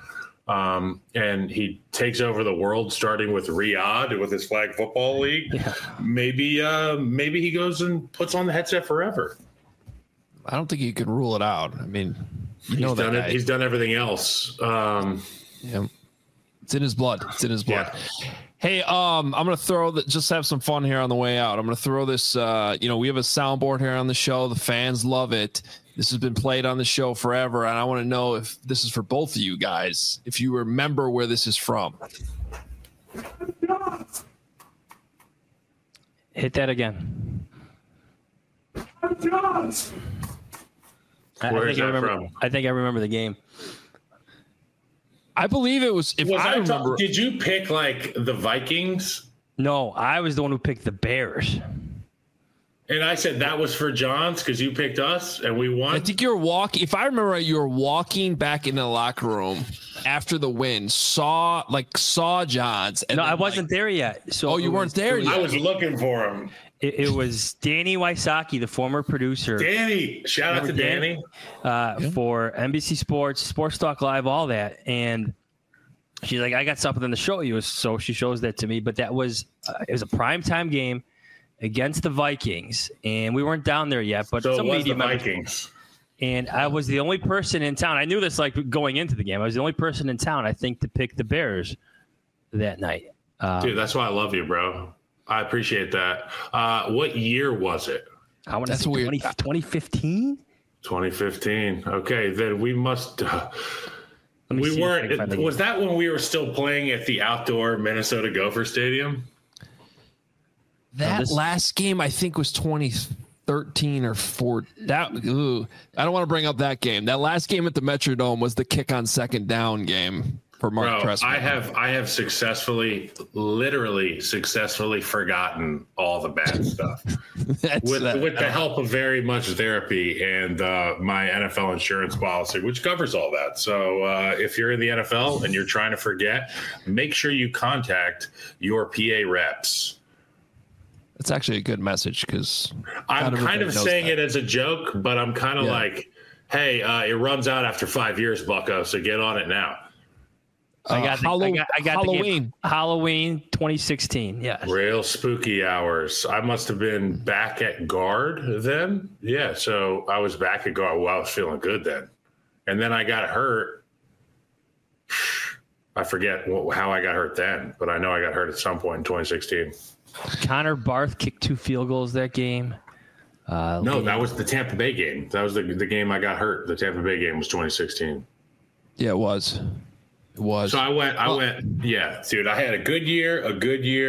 and he takes over the world, starting with Riyadh with his flag football league. Yeah. Maybe he goes and puts on the headset forever. I don't think you could rule it out. I mean, he's done it. He's done everything else. Yeah, it's in his blood. Yeah. Hey, I'm gonna just have some fun here on the way out. I'm gonna throw this. We have a soundboard here on the show. The fans love it. This has been played on the show forever, and I want to know if this is for both of you guys. If you remember where this is from. Hit that again. Where is that from? I think I remember the game. I believe it was. Did you pick like the Vikings? No, I was the one who picked the Bears. And I said that was for Johns because you picked us and we won. I think you're walking. If I remember right, you were walking back in the locker room after the win. Saw Johns. And no, I wasn't there yet. So you weren't there yet. I was looking for him. It was Danny Wysocki, the former producer. Danny, shout out to Danny. For NBC Sports, Sports Talk Live, all that. And she's like, I got something to show you. So she shows that to me. But that was it was a primetime game against the Vikings. And we weren't down there yet. But so some it was media the Vikings. And I was the only person in town. I knew this like going into the game. I was the only person in town, I think, to pick the Bears that night. Dude, that's why I love you, bro. I appreciate that. What year was it? I want to say 2015. 2015. Okay, then we must. We weren't. Was that when we were still playing at the outdoor Minnesota Gopher Stadium? That last game, I think, was 2013 or 14. I don't want to bring up that game. That last game at the Metrodome was the kick on second down game. For Mark Trestman. I have literally successfully forgotten all the bad stuff with the help of very much therapy and my NFL insurance policy, which covers all that. So if you're in the NFL and you're trying to forget, make sure you contact your PA reps. That's actually a good message because I'm kind of saying it as a joke, but I'm kind of like, hey, it runs out after 5 years, Bucko, so get on it now. I got Halloween. The Halloween 2016. Yeah. Real spooky hours. I must have been back at guard then. Yeah. So I was back at guard. Well, I was feeling good then. And then I got hurt. I forget how I got hurt then, but I know I got hurt at some point in 2016. Connor Barth kicked 2 field goals that game. No, that was the Tampa Bay game. That was the game I got hurt. The Tampa Bay game was 2016. Yeah, it was. It was. So I went, yeah, dude, I had a good year. Oh,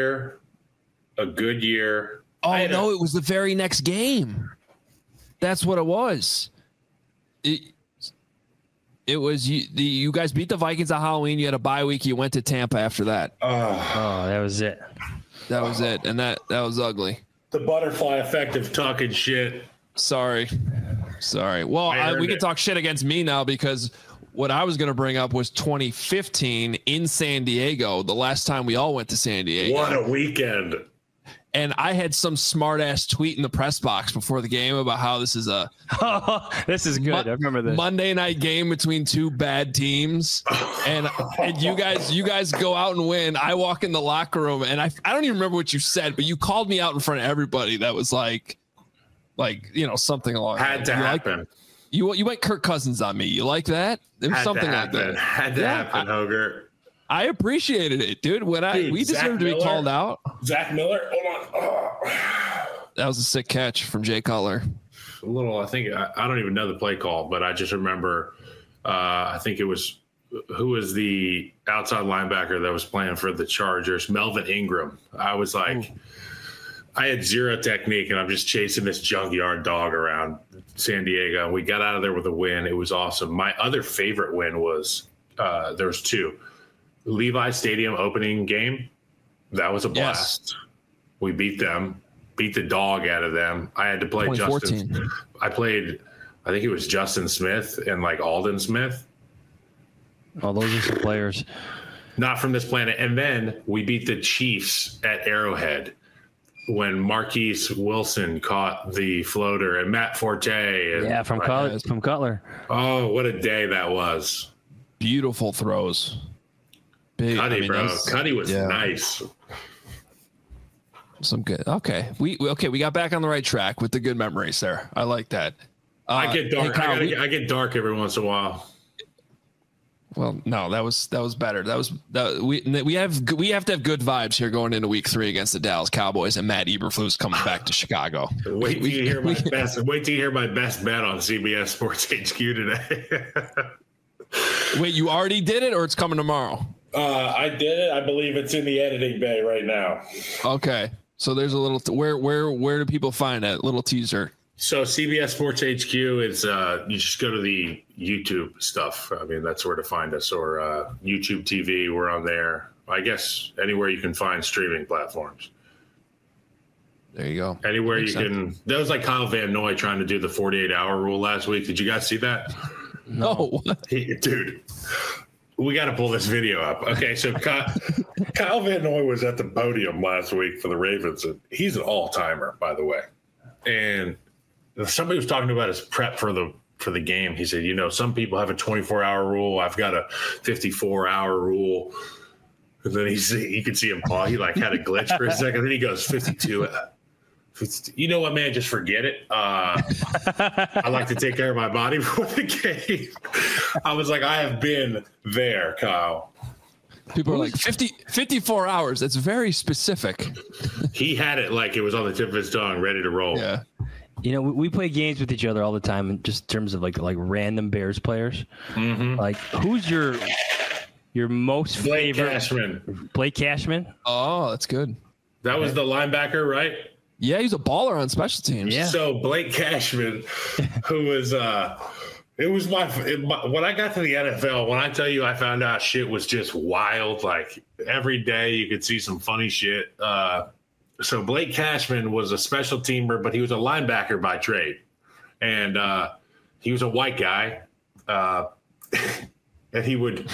no, it was the very next game. That's what it was. It was you guys beat the Vikings on Halloween. You had a bye week. You went to Tampa after that. Oh, that was it. That was it. And that was ugly. The butterfly effect of talking shit. Sorry. Well, we can talk shit against me now because what I was going to bring up was 2015 in San Diego, the last time we all went to San Diego. What a weekend. And I had some smart ass tweet in the press box before the game about how this is this is good. I remember this Monday night game between 2 bad teams. and you guys go out and win. I walk in the locker room and I don't even remember what you said, but you called me out in front of everybody. That was like, something along had to happen. You went Kirk Cousins on me. You like that? It was something like that. Had to happen, Hoger. I appreciated it, dude. We deserve to be called out. Zach Miller, hold on. That was a sick catch from Jay Cutler. A little, I think, I don't even know the play call, but I just remember, I think it was, who was the outside linebacker that was playing for the Chargers? Melvin Ingram. I was like, I had zero technique, and I'm just chasing this junkyard dog around San Diego. We got out of there with a win. It was awesome. My other favorite win was there was 2. Levi Stadium opening game. That was a blast. Yes. We beat them, beat the dog out of them. I had to play Justin. I think it was Justin Smith and like Aldon Smith. Oh, those are some players. Not from this planet. And then we beat the Chiefs at Arrowhead when Marquise Wilson caught the floater and Matt Forte. From Cutler. Oh, what a day that was. beautiful throws. Big, Cuddy, bro. Cuddy was nice. Some good. Okay. We got back on the right track with the good memories there. I like that. I get dark. Hey, Kyle, I get dark every once in a while. Well, no, that was better. We have to have good vibes here going into week 3 against the Dallas Cowboys, and Matt Eberflus coming back to Chicago. Wait till you hear my best bet on CBS Sports HQ today. Wait, you already did it, or it's coming tomorrow? I did it. I believe it's in the editing bay right now. Okay, so there's a little. Where do people find that little teaser? So CBS Sports HQ is you just go to the YouTube stuff. I mean, that's where to find us, or YouTube TV. We're on there. I guess anywhere you can find streaming platforms. There you go. Anywhere Makes you can. That was like Kyle Van Noy trying to do the 48-hour rule last week. Did you guys see that? No. Dude, we got to pull this video up. Okay, so Kyle Van Noy was at the podium last week for the Ravens. And he's an all-timer, by the way. And somebody was talking about his prep for the game. He said, some people have a 24-hour rule. I've got a 54-hour rule. And then you could see him pause. He had a glitch for a second. Then he goes 52. You know what, man? Just forget it. I like to take care of my body before the game. I was like, I have been there, Kyle. People are like 54 hours. That's very specific. He had it like it was on the tip of his tongue, ready to roll. Yeah. We play games with each other all the time, in just terms of like random Bears players. Mm-hmm. Like, who's your most favorite? Cashman. Blake Cashman. Oh, that's good. That was the linebacker, right? Yeah, he's a baller on special teams. Yeah. So Blake Cashman, who was it was my when I got to the NFL, when I tell you I found out shit was just wild, like every day you could see some funny shit. So Blake Cashman was a special teamer, but he was a linebacker by trade. And he was a white guy. And he would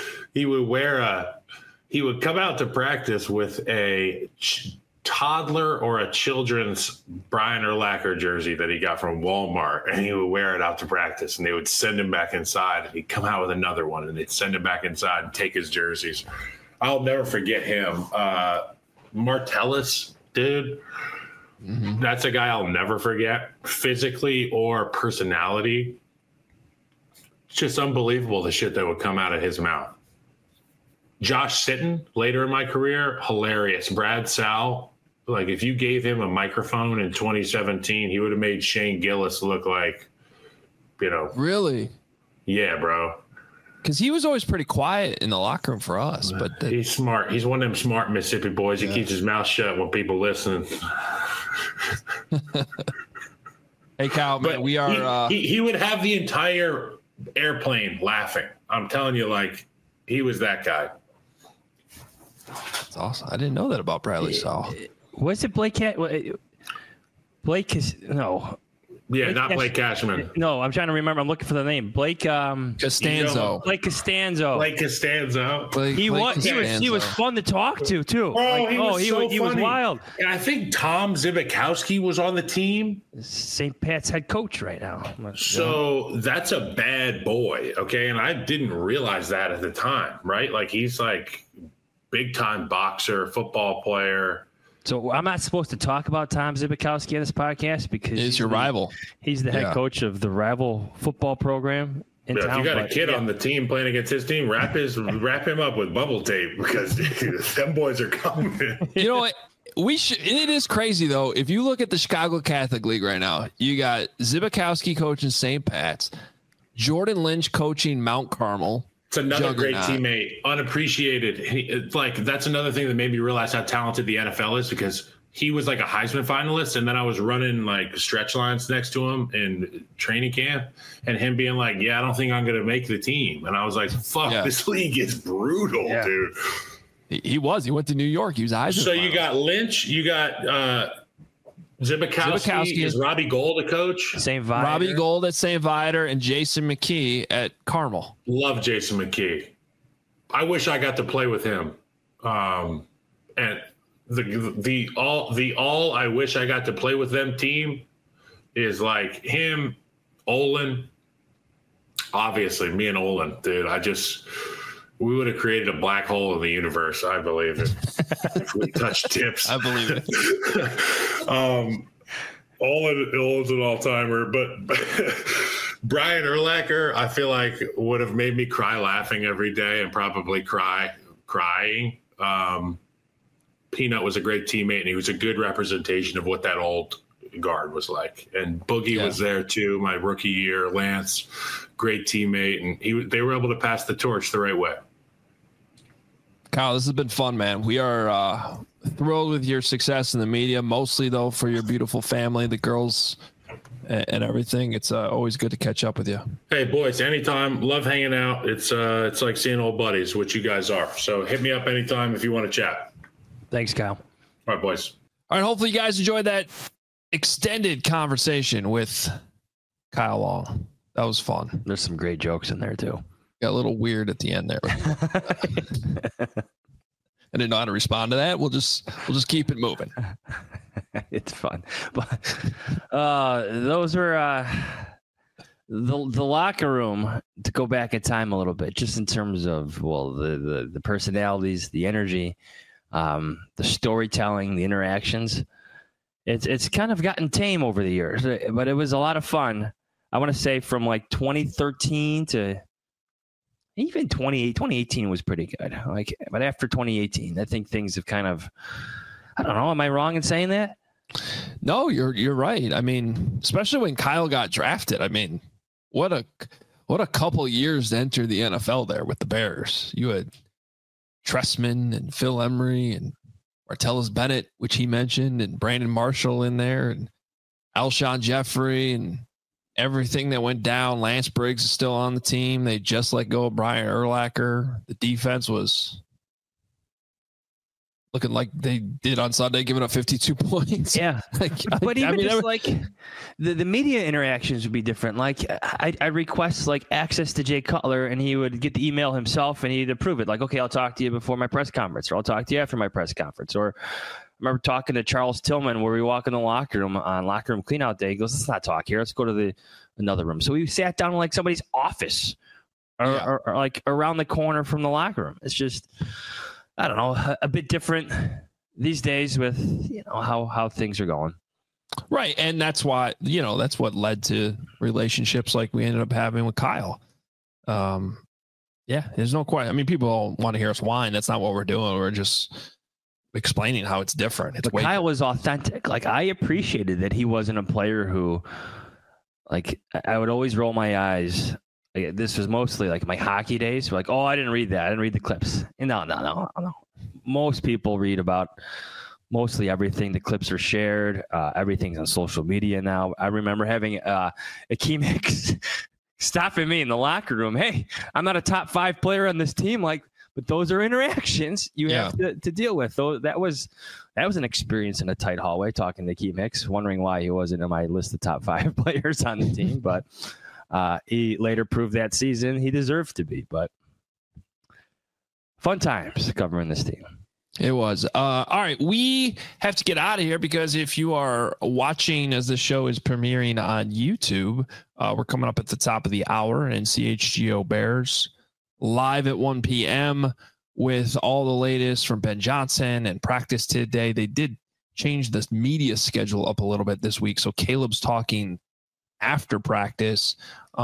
come out to practice with a toddler or a children's Brian Urlacher jersey that he got from Walmart, and he would wear it out to practice, and they would send him back inside, and he'd come out with another one, and they'd send him back inside and take his jerseys. I'll never forget him. Martellus, dude. Mm-hmm. That's a guy I'll never forget, physically or personality. It's just unbelievable the shit that would come out of his mouth. Josh Sitton, later in my career, hilarious. Brad Sal, like if you gave him a microphone in 2017, he would have made Shane Gillis look like, Really? Yeah, bro. Because he was always pretty quiet in the locker room for us. But he's smart. He's one of them smart Mississippi boys. He keeps his mouth shut when people listen. Hey, Kyle, man, we are. He would have the entire airplane laughing. I'm telling you, like, he was that guy. That's awesome. I didn't know that about Bradley Sal. Was it Blake? Blake is no. Yeah, not Blake Cashman. No, I'm trying to remember. I'm looking for the name. Blake Costanzo. Blake Costanzo. Blake Costanzo. He was fun to talk to too. Bro, he was wild. And I think Tom Zibikowski was on the team. St. Pat's head coach right now. So that's a bad boy, okay? And I didn't realize that at the time, right? Like he's like big time boxer, football player. So I'm not supposed to talk about Tom Zibikowski on this podcast because he's your rival. He's the head coach of the rival football program in town. If you got a kid on the team playing against his team, wrap him up with bubble tape because them boys are coming. You know what? It is crazy though. If you look at the Chicago Catholic League right now, you got Zibikowski coaching St. Pat's, Jordan Lynch coaching Mount Carmel. It's another great teammate, unappreciated. That's another thing that made me realize how talented the NFL is because he was like a Heisman finalist, and then I was running like stretch lines next to him in training camp, and him being like, "Yeah, I don't think I'm going to make the team," and I was like, "Fuck, this league is brutal, dude." He was. He went to New York. He was Heisman. So you got Lynch, you got Zibikowski. Is Robbie Gould a coach? St. Viator. Robbie Gould at St. Viator and Jason McKee at Carmel. Love Jason McKee. I wish I got to play with him. And the all I wish I got to play with them team is like him, Olin, Obviously, me and Olin, dude. We would have created a black hole in the universe, I believe, if we touched tips. I believe it. Olin's an all-timer, but Brian Urlacher, I feel like would have made me cry laughing every day and probably crying. Peanut was a great teammate, and he was a good representation of what that old guard was like. And Boogie was there too, my rookie year. Lance, great teammate, and they were able to pass the torch the right way. Kyle, this has been fun, man. We are thrilled with your success in the media, mostly though for your beautiful family, the girls and everything. It's always good to catch up with you. Hey boys, anytime. Love hanging out. It's like seeing old buddies, which you guys are. So hit me up anytime if you want to chat. Thanks, Kyle. All right, boys. All right, hopefully you guys enjoyed that extended conversation with Kyle Long. That was fun. There's some great jokes in there too. Got a little weird at the end there. I didn't know how to respond to that. We'll just keep it moving. It's fun, but those were the locker room. To go back in time a little bit, just in terms of the personalities, the energy, the storytelling, the interactions. It's kind of gotten tame over the years, but it was a lot of fun. I want to say from like 2013 to even 2018 was pretty good. But after 2018, I think things have kind of, I don't know. Am I wrong in saying that? No, you're right. I mean, especially when Kyle got drafted. I mean, what a couple years to enter the NFL there with the Bears. You had Trestman and Phil Emery and Martellus Bennett, which he mentioned, and Brandon Marshall in there, and Alshon Jeffrey, and everything that went down. Lance Briggs is still on the team. They just let go of Brian Urlacher. The defense was looking like they did on Sunday, giving up 52 points. Yeah. But even the media interactions would be different. Like I request like access to Jay Cutler, and he would get the email himself and he'd approve it. Like, okay, I'll talk to you before my press conference, or I'll talk to you after my press conference. Or I remember talking to Charles Tillman where we walk in the locker room on locker room cleanout day. He goes, let's not talk here. Let's go to another room. So we sat down in like somebody's office or like around the corner from the locker room. It's just, I don't know, a bit different these days with, how things are going. Right. And that's why, that's what led to relationships like we ended up having with Kyle. There's no question. I mean, people all want to hear us whine. That's not what we're doing. We're just explaining how it's different. But Kyle was authentic. Like, I appreciated that he wasn't a player who, like, I would always roll my eyes. Like, this was mostly like my hockey days. Like, oh, I didn't read that. I didn't read the clips. And no. Most people read about mostly everything. The clips are shared. Everything's on social media now. I remember having Akeem Hicks stopping me in the locker room. Hey, I'm not a top 5 player on this team. Like, but those are interactions you have to deal with. So that was an experience in a tight hallway talking to Akeem Hicks, wondering why he wasn't in my list of top 5 players on the team. But he later proved that season he deserved to be. But fun times covering this team. It was. All right. We have to get out of here because if you are watching as the show is premiering on YouTube, we're coming up at the top of the hour, and CHGO Bears live at 1 p.m. with all the latest from Ben Johnson and practice today. They did change the media schedule up a little bit this week. So Caleb's talking after practice.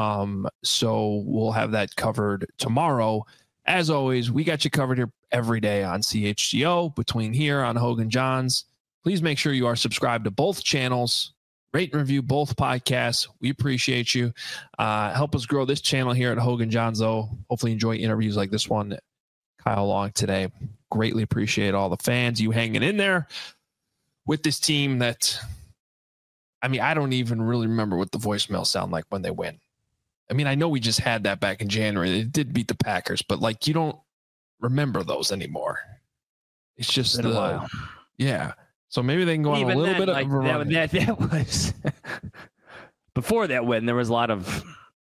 So we'll have that covered tomorrow. As always, we got you covered here every day on CHGO between here on Hogan Johns. Please make sure you are subscribed to both channels. Rate and review both podcasts. We appreciate you. Help us grow this channel here at Hogan Johns, though. Hopefully enjoy interviews like this one. Kyle Long today. Greatly appreciate all the fans, you hanging in there with this team that, I mean, I don't even really remember what the voicemails sound like when they win. I mean, I know we just had that back in January. They did beat the Packers, but like, you don't remember those anymore. It's just a while. Yeah. So maybe they can go on a little bit of a run. That was before that win. There was a lot of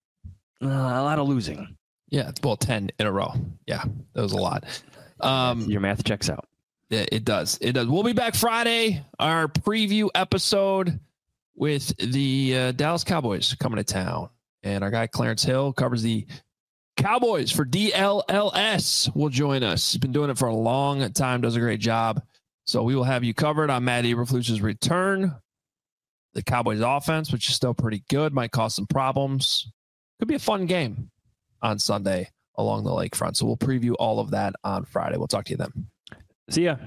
losing. Yeah, well, 10 in a row. Yeah, that was a lot. Your math checks out. Yeah, it does. It does. We'll be back Friday. Our preview episode with the Dallas Cowboys coming to town. And our guy Clarence Hill covers the Cowboys for DLLS will join us. He's been doing it for a long time, does a great job. So we will have you covered on Matt Eberflus's return. The Cowboys offense, which is still pretty good, might cause some problems. Could be a fun game on Sunday along the lakefront. So we'll preview all of that on Friday. We'll talk to you then. See ya.